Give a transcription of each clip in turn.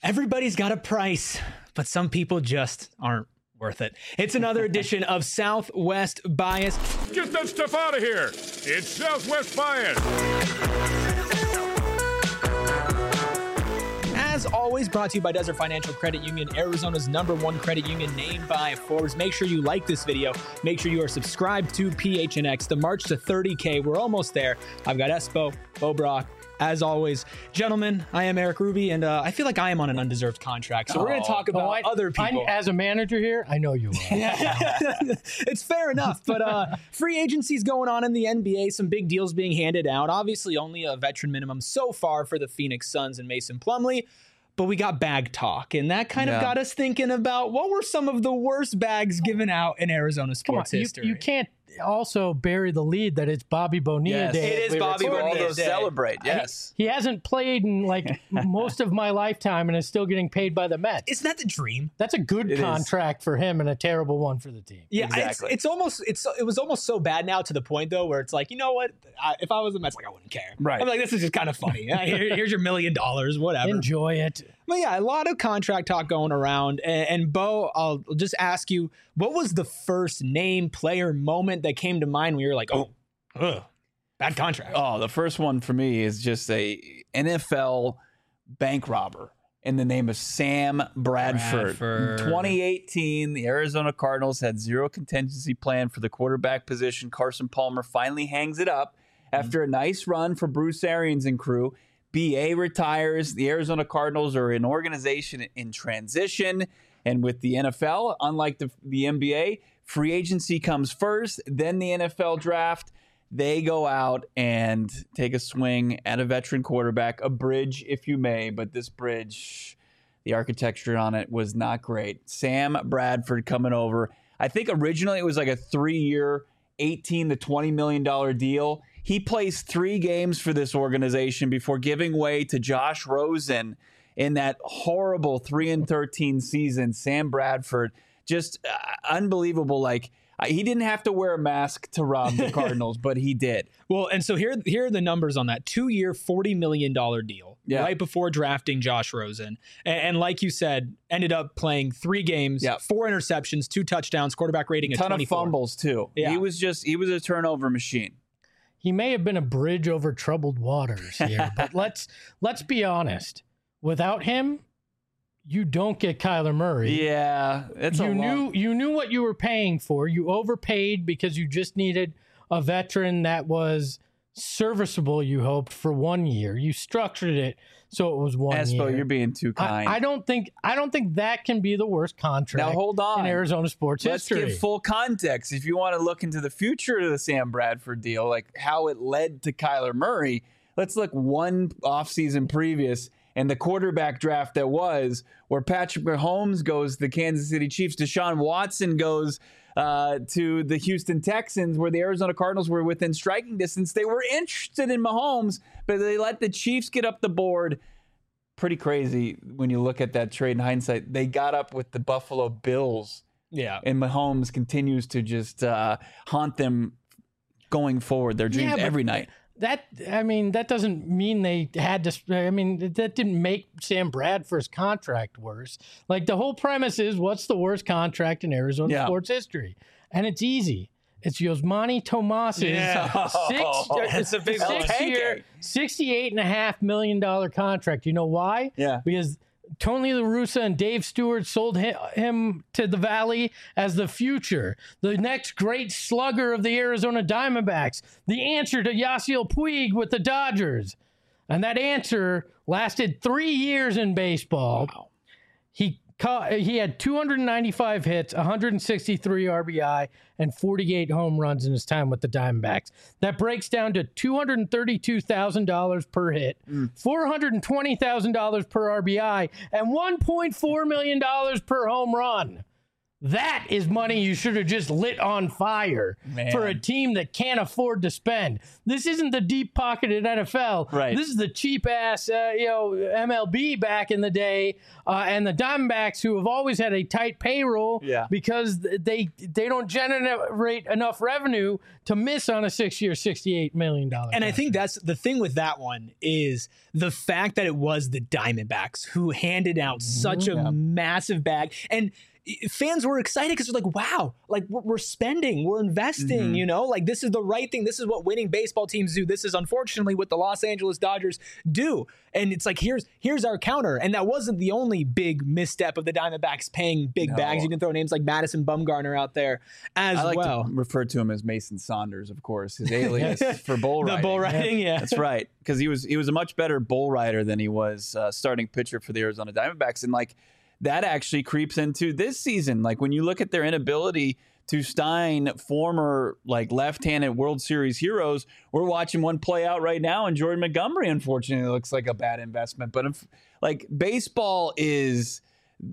Everybody's got a price, but some people just aren't worth it. It's another edition of Southwest Bias. Get that stuff out of here. It's Southwest Bias. As always, brought to you by Desert Financial Credit Union, Arizona's #1 credit union, named by Forbes. Make sure you like this video. Make sure you are subscribed to PHNX. The march to 30K, we're almost there. I've got Espo, Bo Brock. As always, gentlemen, I am Eric Ruby, and I feel like I am on an undeserved contract. So we're going to talk about other people. As a manager here, I know you are. It's fair enough, but free agency's going on in the NBA. Some big deals being handed out. Obviously, only a veteran minimum so far for the Phoenix Suns and Mason Plumlee. But we got bag talk, and that kind of got us thinking about what were some of the worst bags given out in Arizona sports history. You can't also bury the lead that it's Bobby Bonilla Day. It is Bobby Bonilla Day. Celebrate, yes. He hasn't played in like most of my lifetime and is still getting paid by the Mets. Isn't that the dream? That's a good contract for him and a terrible one for the team. Yeah, exactly. It was almost so bad now to the point though where it's like, you know what? If I was the Mets, like I wouldn't care. Right. I'm like, this is just kind of funny. Here's your $1 million, whatever. Enjoy it. But yeah, a lot of contract talk going around. And Bo, I'll just ask you, what was the first name, player, moment that came to mind when you were like, bad contract? Oh, the first one for me is just a NFL bank robber in the name of Sam Bradford. In 2018, the Arizona Cardinals had zero contingency plan for the quarterback position. Carson Palmer finally hangs it up after a nice run for Bruce Arians and crew. BA retires. The Arizona Cardinals are an organization in transition. And with the NFL, unlike the NBA, free agency comes first, then the NFL draft. They go out and take a swing at a veteran quarterback, a bridge, if you may. But this bridge, the architecture on it was not great. Sam Bradford coming over. I think originally it was like a 3-year, $18 to $20 million deal. He plays 3 games for this organization before giving way to Josh Rosen in that horrible 3-13 season. Sam Bradford, just unbelievable. Like, he didn't have to wear a mask to rob the Cardinals, but he did. Well, and so here are the numbers on that. 2-year, $40 million deal right before drafting Josh Rosen. And like you said, ended up playing 3 games, 4 interceptions, 2 touchdowns, quarterback rating of 24. Ton of fumbles, too. Yeah. He was a turnover machine. He may have been a bridge over troubled waters here, but let's you without him, you don't get Kyler Murray. Yeah, you knew what you were paying for. You overpaid because you just needed a veteran that was serviceable. You hoped for 1 year. You structured it so it was 1 year. Espo, you're being too kind. I don't think that can be the worst contract. Now hold on. In Arizona sports history. Let's give full context. If you want to look into the future of the Sam Bradford deal, like how it led to Kyler Murray, let's look one offseason previous and the quarterback draft that was, where Patrick Mahomes goes to the Kansas City Chiefs, Deshaun Watson goes to the Houston Texans, where the Arizona Cardinals were within striking distance. They were interested in Mahomes, but they let the Chiefs get up the board. Pretty crazy when you look at that trade in hindsight. They got up with the Buffalo Bills. Yeah. And Mahomes continues to just haunt them going forward, their dreams every night. That doesn't mean they had to. That didn't make Sam Bradford's contract worse. Like, the whole premise is, what's the worst contract in Arizona sports history? And it's easy. It's Yosmani Tomas's it's a big $6-year, $68.5 million contract. You know why? Yeah. Because Tony La Russa and Dave Stewart sold him to the Valley as the future, the next great slugger of the Arizona Diamondbacks, the answer to Yasiel Puig with the Dodgers. And that answer lasted 3 years in baseball. Wow. He had 295 hits, 163 RBI, and 48 home runs in his time with the Diamondbacks. That breaks down to $232,000 per hit, $420,000 per RBI, and $1.4 million per home run. That is money you should have just lit on fire for a team that can't afford to spend. This isn't the deep-pocketed NFL. Right. This is the cheap-ass, MLB back in the day, and the Diamondbacks, who have always had a tight payroll because they don't generate enough revenue to miss on a 6-year, $68 million. And I think that's the thing with that one is the fact that it was the Diamondbacks who handed out such a massive bag. And fans were excited because they're like, wow, like we're spending, we're investing, you know, like this is the right thing. This is what winning baseball teams do. This is unfortunately what the Los Angeles Dodgers do. And it's like, here's our counter. And that wasn't the only big misstep of the Diamondbacks paying big bags. You can throw names like Madison Bumgarner out there as well. I like to refer to him as Mason Saunders, of course, his alias for bull riding. The bull riding, yeah. That's right. Because he was a much better bull rider than he was starting pitcher for the Arizona Diamondbacks. And like, that actually creeps into this season. Like when you look at their inability to sign former like left-handed World Series heroes, we're watching one play out right now, and Jordan Montgomery, unfortunately, looks like a bad investment. But if, like, baseball is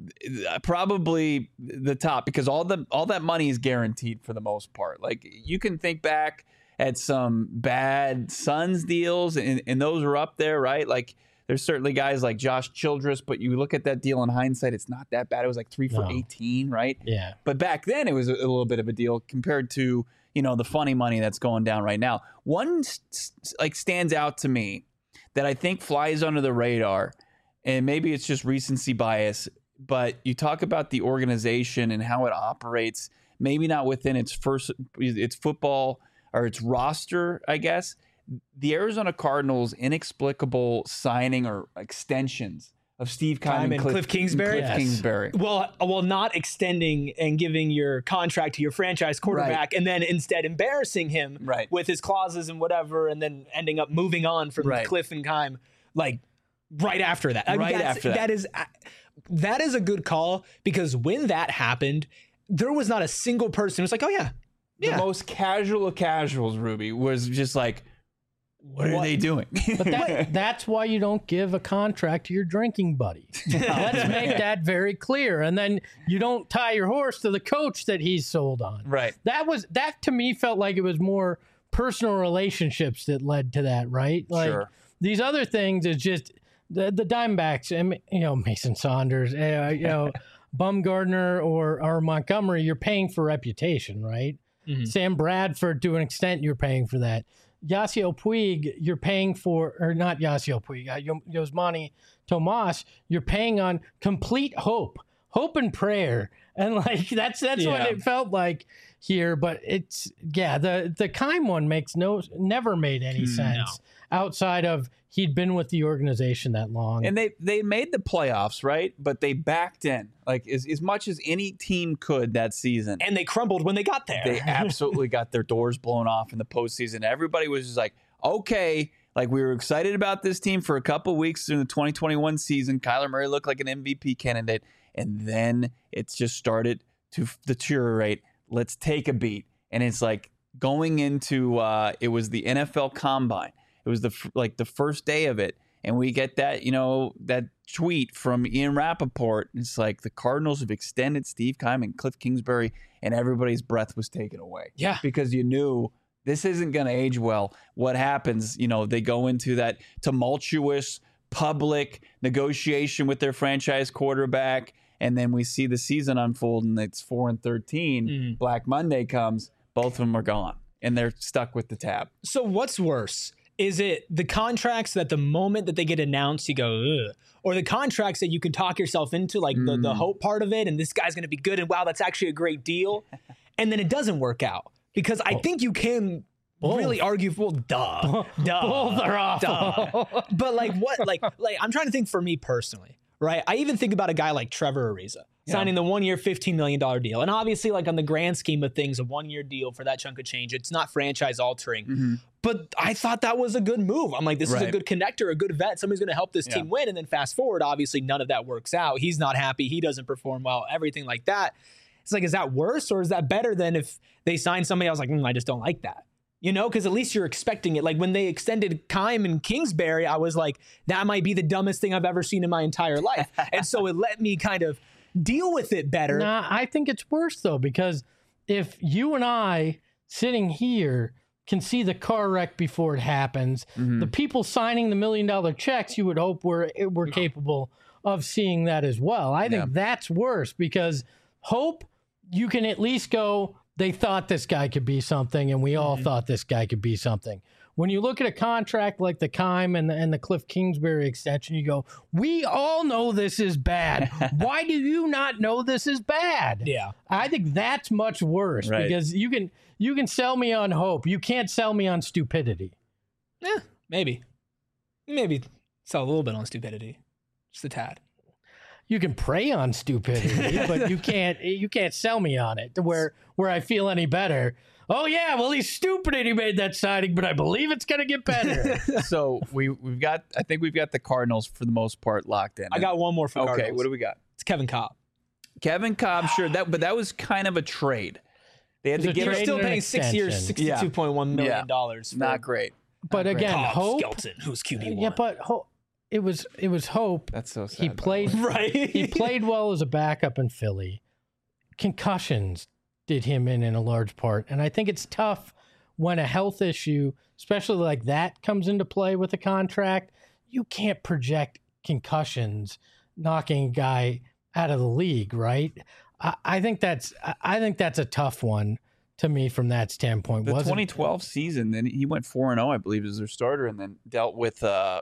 probably the top because all that money is guaranteed for the most part. Like you can think back at some bad Suns deals, and those are up there, right? Like. There's certainly guys like Josh Childress, but you look at that deal in hindsight, it's not that bad. It was like 3 for 18, right? Yeah. But back then, it was a little bit of a deal compared to, you know, the funny money that's going down right now. One like stands out to me that I think flies under the radar, and maybe it's just recency bias, but you talk about the organization and how it operates, maybe not within its football or its roster, I guess. The Arizona Cardinals' inexplicable signing or extensions of Steve Keim and Cliff Kingsbury. Kingsbury. Well, not extending and giving your contract to your franchise quarterback, and then instead embarrassing him with his clauses and whatever, and then ending up moving on from Cliff and Keim, like right after that. That is a good call because when that happened, there was not a single person who was like, oh yeah. The most casual of casuals, Ruby, was just like, what are they doing? But that's why you don't give a contract to your drinking buddy. Let's make that very clear. And then you don't tie your horse to the coach that he's sold on. Right. That to me felt like it was more personal relationships that led to that, right? Like these other things is just the Diamondbacks and, you know, Mason Saunders, you know, Bumgarner or Montgomery, you're paying for reputation, right? Sam Bradford, to an extent, you're paying for that. Yasiel Puig, you're paying for, or not Yasiel Puig, Yasmani Tomas, you're paying on complete hope and prayer. And like, that's what it felt like here. But it's, the Keim one never made any sense outside of he'd been with the organization that long. And they made the playoffs, right? But they backed in, like as much as any team could that season. And they crumbled when they got there. They absolutely got their doors blown off in the postseason. Everybody was just like, okay, like we were excited about this team for a couple of weeks in the 2021 season. Kyler Murray looked like an MVP candidate. And then it's just started to deteriorate. Let's take a beat. And it's like going into, it was the NFL Combine. It was the first day of it. And we get that, you know, that tweet from Ian Rappaport. It's like the Cardinals have extended Steve Keim and Cliff Kingsbury, and everybody's breath was taken away. Yeah. Because you knew this isn't going to age well. What happens, you know, they go into that tumultuous public negotiation with their franchise quarterback, and then we see the season unfold, and it's 4-13. Black Monday comes. Both of them are gone, and they're stuck with the tab. So what's worse? Is it the contracts that the moment that they get announced, you go, ugh, or the contracts that you can talk yourself into, like the hope part of it, and this guy's going to be good, and wow, that's actually a great deal, and then it doesn't work out? Because I think you can really argue, well, duh. Both are awful. But like what? Like I'm trying to think for me personally, right? I even think about a guy like Trevor Ariza signing the 1 year, $15 million deal. And obviously, like on the grand scheme of things, a 1 year deal for that chunk of change, it's not franchise altering. But I thought that was a good move. I'm like, this is a good connector, a good vet. Somebody's going to help this team win. And then fast forward, obviously, none of that works out. He's not happy. He doesn't perform well, everything like that. It's like, is that worse or is that better than if they signed somebody? I was like, I just don't like that. You know, because at least you're expecting it. Like when they extended Keim and Kingsbury, I was like, that might be the dumbest thing I've ever seen in my entire life. And so it let me kind of deal with it better. Nah, I think it's worse though, because if you and I sitting here can see the car wreck before it happens, the people signing the $1 million checks, you would hope we're capable of seeing that as well. I think that's worse, because hope, you can at least go, they thought this guy could be something, and we all thought this guy could be something. When you look at a contract like the Keim and the Cliff Kingsbury extension, you go, we all know this is bad. Why do you not know this is bad? Yeah. I think that's much worse, because you can sell me on hope. You can't sell me on stupidity. Maybe sell a little bit on stupidity, just a tad. You can prey on stupidity, but you can't sell me on it to where I feel any better. Oh yeah, well he's stupid and he made that signing, but I believe it's gonna get better. So I think we've got the Cardinals for the most part locked in. I got one more for Cardinals. Okay, what do we got? It's Kevin Cobb. Kevin Cobb, sure. But that was kind of a trade. They had to give. You're still paying 6 years, $62.1 million. Not great. But again, Cobb, hope. Skelton, who's QB1. Yeah, but it was hope. That's so sad. He played right. He played well as a backup in Philly. Concussions did him in a large part, and I think it's tough when a health issue, especially like that, comes into play with a contract. You can't project concussions knocking a guy out of the league, right? I think that's a tough one to me from that standpoint. The 2012 season, then he went 4-0, I believe, as their starter, and then dealt with a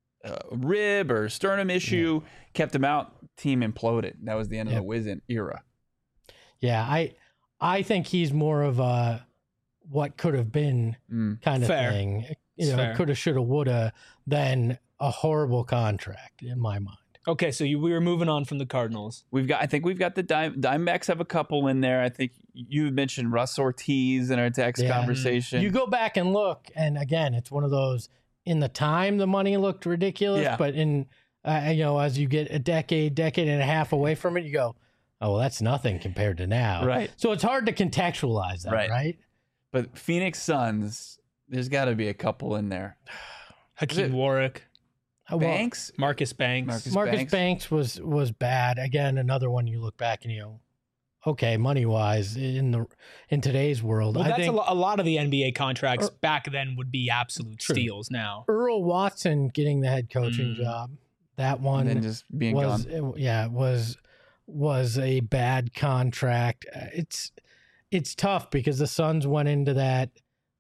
rib or sternum issue, kept him out. Team imploded. That was the end of the Wizen era. Yeah, I think he's more of a what could have been kind of thing. Coulda, shoulda, woulda, than a horrible contract in my mind. Okay, so we were moving on from the Cardinals. I think we've got the Diamondbacks have a couple in there. I think you mentioned Russ Ortiz in our text conversation. You go back and look, and again, it's one of those. In the time, the money looked ridiculous, but in as you get a decade and a half away from it, you go, oh, well, that's nothing compared to now. Right. So it's hard to contextualize that, right? But Phoenix Suns, there's got to be a couple in there. Hakeem Warwick. Banks? Marcus Banks. Marcus Banks was bad. Again, another one you look back and you go, okay, money-wise, in today's world. Well, that's a lot of the NBA contracts back then would be absolute steals now. Earl Watson getting the head coaching job. That one and then just being gone. Yeah, was a bad contract. It's tough because the Suns went into that,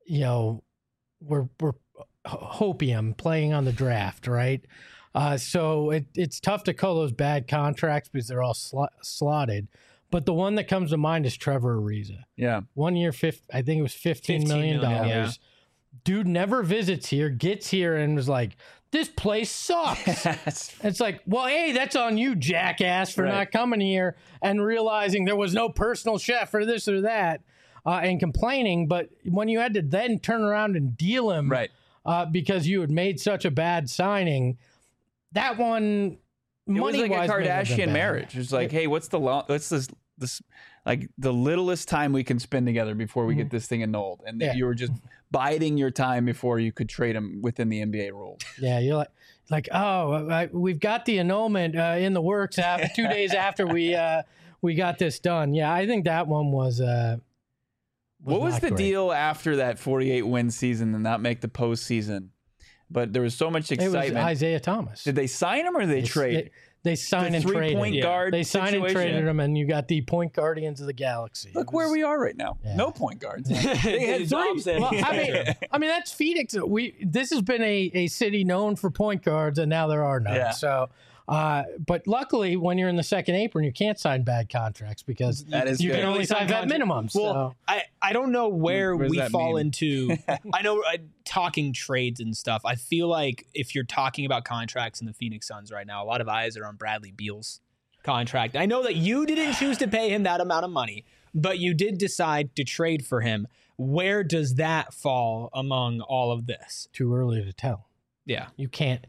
we're hopium playing on the draft, right? So it's tough to call those bad contracts because they're all slotted. But the one that comes to mind is Trevor Ariza. Yeah. 1 year, I think it was $15 million. Yeah. Dude never visits here, gets here, and was like, this place sucks. It's like, well, hey, that's on you, jackass, for not coming here and realizing there was no personal chef or this or that and complaining. But when you had to then turn around and deal him because you had made such a bad signing, that one, it was like a Kardashian marriage. It's like, hey, what's this like the littlest time we can spend together before we get this thing annulled? And you were just biding your time before you could trade him within the NBA rules. Yeah, you're like, we've got the annulment in the works 2 days after we got this done. Yeah, I think that one was what was the deal after that 48-win season and not make the postseason? But there was so much excitement. It was Isaiah Thomas. Did they sign him or did they trade? They signed and traded. Point guard they signed and traded him, and you got the point guardians of the galaxy. Look where we are right now. Yeah. No point guards. They had three. Well, I mean, that's Phoenix. This has been a city known for point guards, and now there are none. Yeah. So, but luckily, when you're in the second apron, you can't sign bad contracts because you can only sign vet minimums. Well, so. I don't know where we fall into. I know talking trades and stuff. I feel like if you're talking about contracts in the Phoenix Suns right now, a lot of eyes are on Bradley Beal's contract. I know that you didn't choose to pay him that amount of money, but you did decide to trade for him. Where does that fall among all of this? Too early to tell. Yeah. You can't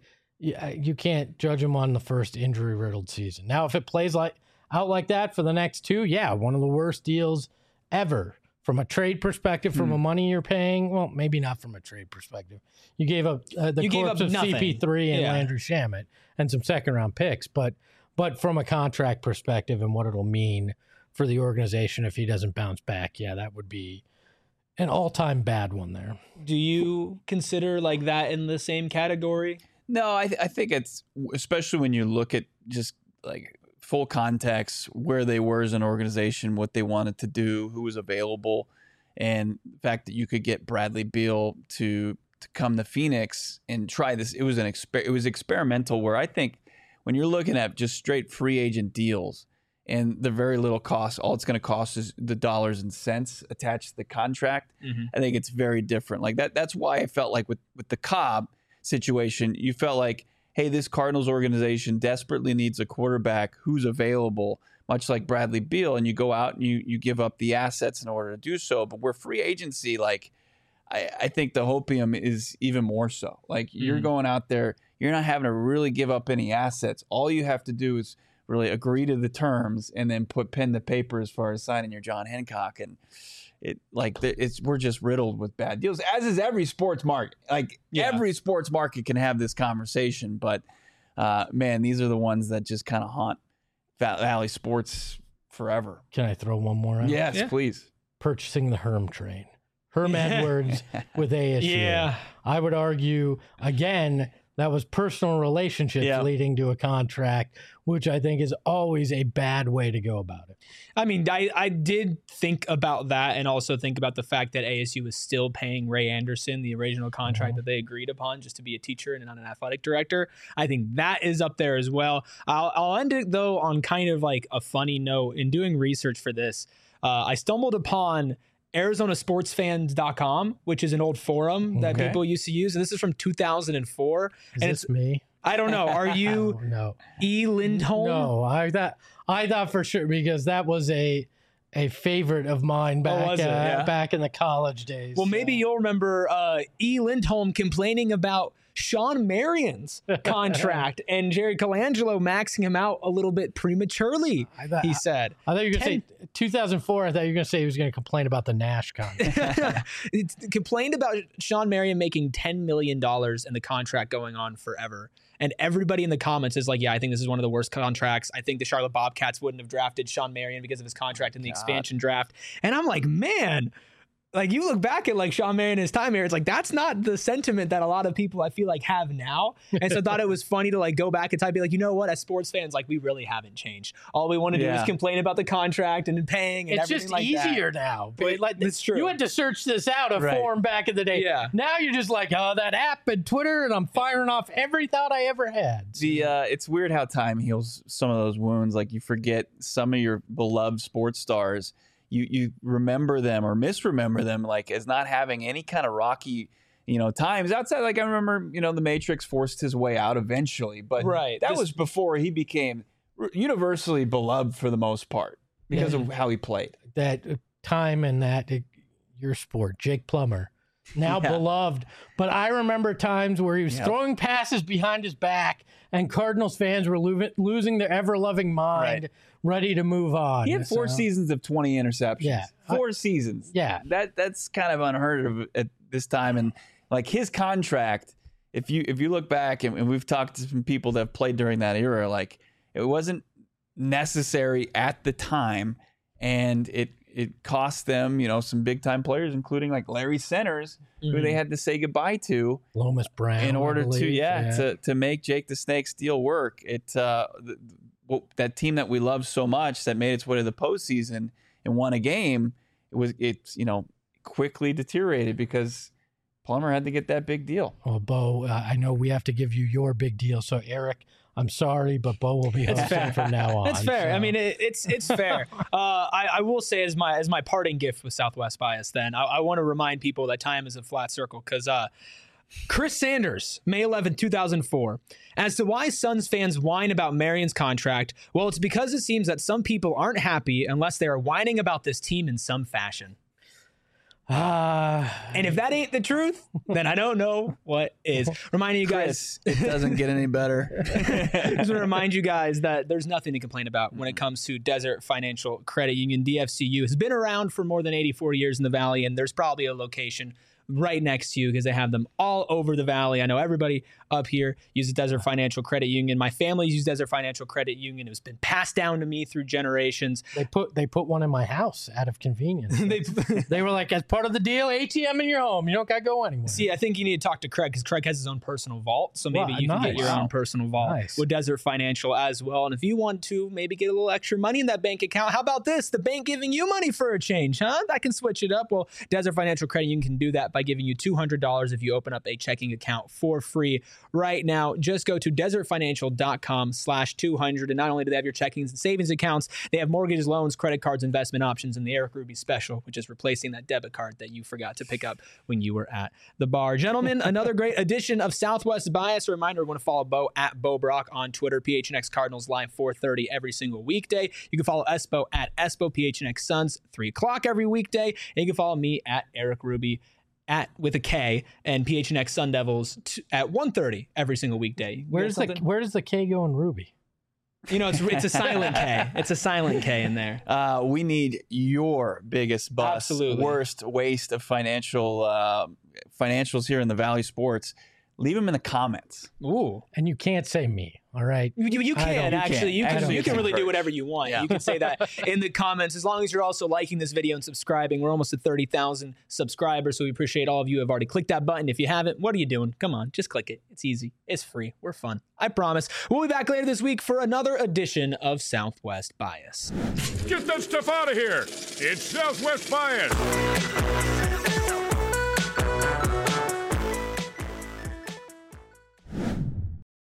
judge him on the first injury-riddled season. Now, if it plays out like that for the next two, one of the worst deals ever. From a trade perspective, from a money you're paying, well, maybe not from a trade perspective. You gave up the corpse of CP3 and Landry Shamet and some second-round picks. But But from a contract perspective and what it'll mean for the organization if he doesn't bounce back, yeah, that would be an all-time bad one there. Do you consider like that in the same category? No, I think it's, especially when you look at just like full context, where they were as an organization, what they wanted to do, who was available, and the fact that you could get Bradley Beal to come to Phoenix and try this. It was experimental, where I think when you're looking at just straight free agent deals and the very little cost, all it's going to cost is the dollars and cents attached to the contract. Mm-hmm. I think it's very different. Like that's why I felt like with the Cobb situation, you felt like, hey, this Cardinals organization desperately needs a quarterback who's available, much like Bradley Beal, and you go out and you give up the assets in order to do so. But where free agency, like I think the hopium is even more so. Like you're going out there, you're not having to really give up any assets. All you have to do is really agree to the terms and then put pen to paper as far as signing your John Hancock. And we're just riddled with bad deals, as is every sports market. Every sports market can have this conversation, but man, these are the ones that just kind of haunt Valley sports forever. Can I throw one more out? Yes, please. Purchasing the Herm train. Herm Edwards with ASU. Yeah. I would argue, again, that was personal relationships leading to a contract, which I think is always a bad way to go about it. I mean, I did think about that, and also think about the fact that ASU was still paying Ray Anderson the original contract that they agreed upon just to be a teacher and not an athletic director. I think that is up there as well. I'll end it, though, on kind of like a funny note. In doing research for this, I stumbled upon ArizonaSportsFans.com, which is an old forum that people used to use. And this is from 2004. Is this me? I don't know. Are you E. Lindholm? No, I thought for sure, because that was a favorite of mine back in the college days. Well, maybe you'll remember E. Lindholm complaining about Sean Marion's contract and Jerry Colangelo maxing him out a little bit prematurely, he said. I thought you were going to say 2004. I thought you were going to say he was going to complain about the Nash contract. Complained about Sean Marion making $10 million and the contract going on forever. And everybody in the comments is like, yeah, I think this is one of the worst contracts. I think the Charlotte Bobcats wouldn't have drafted Sean Marion because of his contract in the expansion draft. And I'm like, man, like you look back at like Sean Marion and his time here, it's like that's not the sentiment that a lot of people I feel like have now. And so I thought it was funny to like go back and be like, you know what, as sports fans, like we really haven't changed. All we want to do is complain about the contract and paying and everything like that. It's just easier now. But it's true. You had to search this out form back in the day. Yeah. Now you're just like, oh, that app and Twitter, and I'm firing off every thought I ever had. So. It's weird how time heals some of those wounds. Like you forget some of your beloved sports stars. You remember them or misremember them like as not having any kind of rocky, times outside. Like I remember, the Matrix forced his way out eventually, but that was before he became universally beloved for the most part because of how he played. That time and your sport, Jake Plummer, now beloved. But I remember times where he was throwing passes behind his back and Cardinals fans were losing their ever-loving mind. Ready to move on. He had 4 seasons of 20 interceptions. Yeah. 4 seasons. Yeah. That's kind of unheard of at this time. And like his contract, if you look back and we've talked to some people that have played during that era, like it wasn't necessary at the time. And it cost them, some big time players, including like Larry Centers, who they had to say goodbye to. Lomas Brown. In order to make Jake the Snake's deal work. That team that we love so much that made its way to the postseason and won a game, it's quickly deteriorated because Plummer had to get that big deal. Well, Bo, I know we have to give you your big deal. So Eric, I'm sorry, but Bo will be hosting from now on. That's fair. So. I mean, it's fair. I will say as my parting gift with Southwest Bias, then I want to remind people that time is a flat circle because Chris Sanders, May 11, 2004. As to why Suns fans whine about Marion's contract, well, it's because it seems that some people aren't happy unless they are whining about this team in some fashion. And if that ain't the truth, then I don't know what is. Reminding you guys, it doesn't get any better. Just want to remind you guys that there's nothing to complain about when it comes to Desert Financial Credit Union. DFCU has been around for more than 84 years in the Valley, and there's probably a location right next to you because they have them all over the valley. I know everybody up here uses Desert Financial Credit Union. My family uses Desert Financial Credit Union. It's been passed down to me through generations. They put one in my house out of convenience. They were like, as part of the deal, ATM in your home. You don't got to go anywhere. See, I think you need to talk to Craig because Craig has his own personal vault. So maybe you can get your own personal vault with Desert Financial as well. And if you want to maybe get a little extra money in that bank account, how about this? The bank giving you money for a change, huh? That can switch it up. Well, Desert Financial Credit Union can do that by giving you $200 if you open up a checking account for free right now. Just go to desertfinancial.com/200. And not only do they have your checkings and savings accounts, they have mortgages, loans, credit cards, investment options, and the Eric Ruby special, which is replacing that debit card that you forgot to pick up when you were at the bar. Gentlemen, another great edition of Southwest Bias. A reminder, we want to follow Bo at Bo Brock on Twitter. PHNX Cardinals live 4:30 every single weekday. You can follow Espo at Espo PHNX Suns 3 o'clock every weekday. And you can follow me at Eric Ruby with a K and PHNX Sun Devils at 1:30 every single weekday. Where does the K go in Ruby? You know, it's a silent K. It's a silent K in there. We need your biggest bust, worst waste of financials here in the Valley Sports. Leave them in the comments. Ooh. And you can't say me, all right? You can actually. You can really do whatever you want. Yeah. You can say that in the comments as long as you're also liking this video and subscribing. We're almost at 30,000 subscribers, so we appreciate all of you who have already clicked that button. If you haven't, what are you doing? Come on, just click it. It's easy. It's free. We're fun. I promise. We'll be back later this week for another edition of Southwest Bias. Get that stuff out of here. It's Southwest Bias.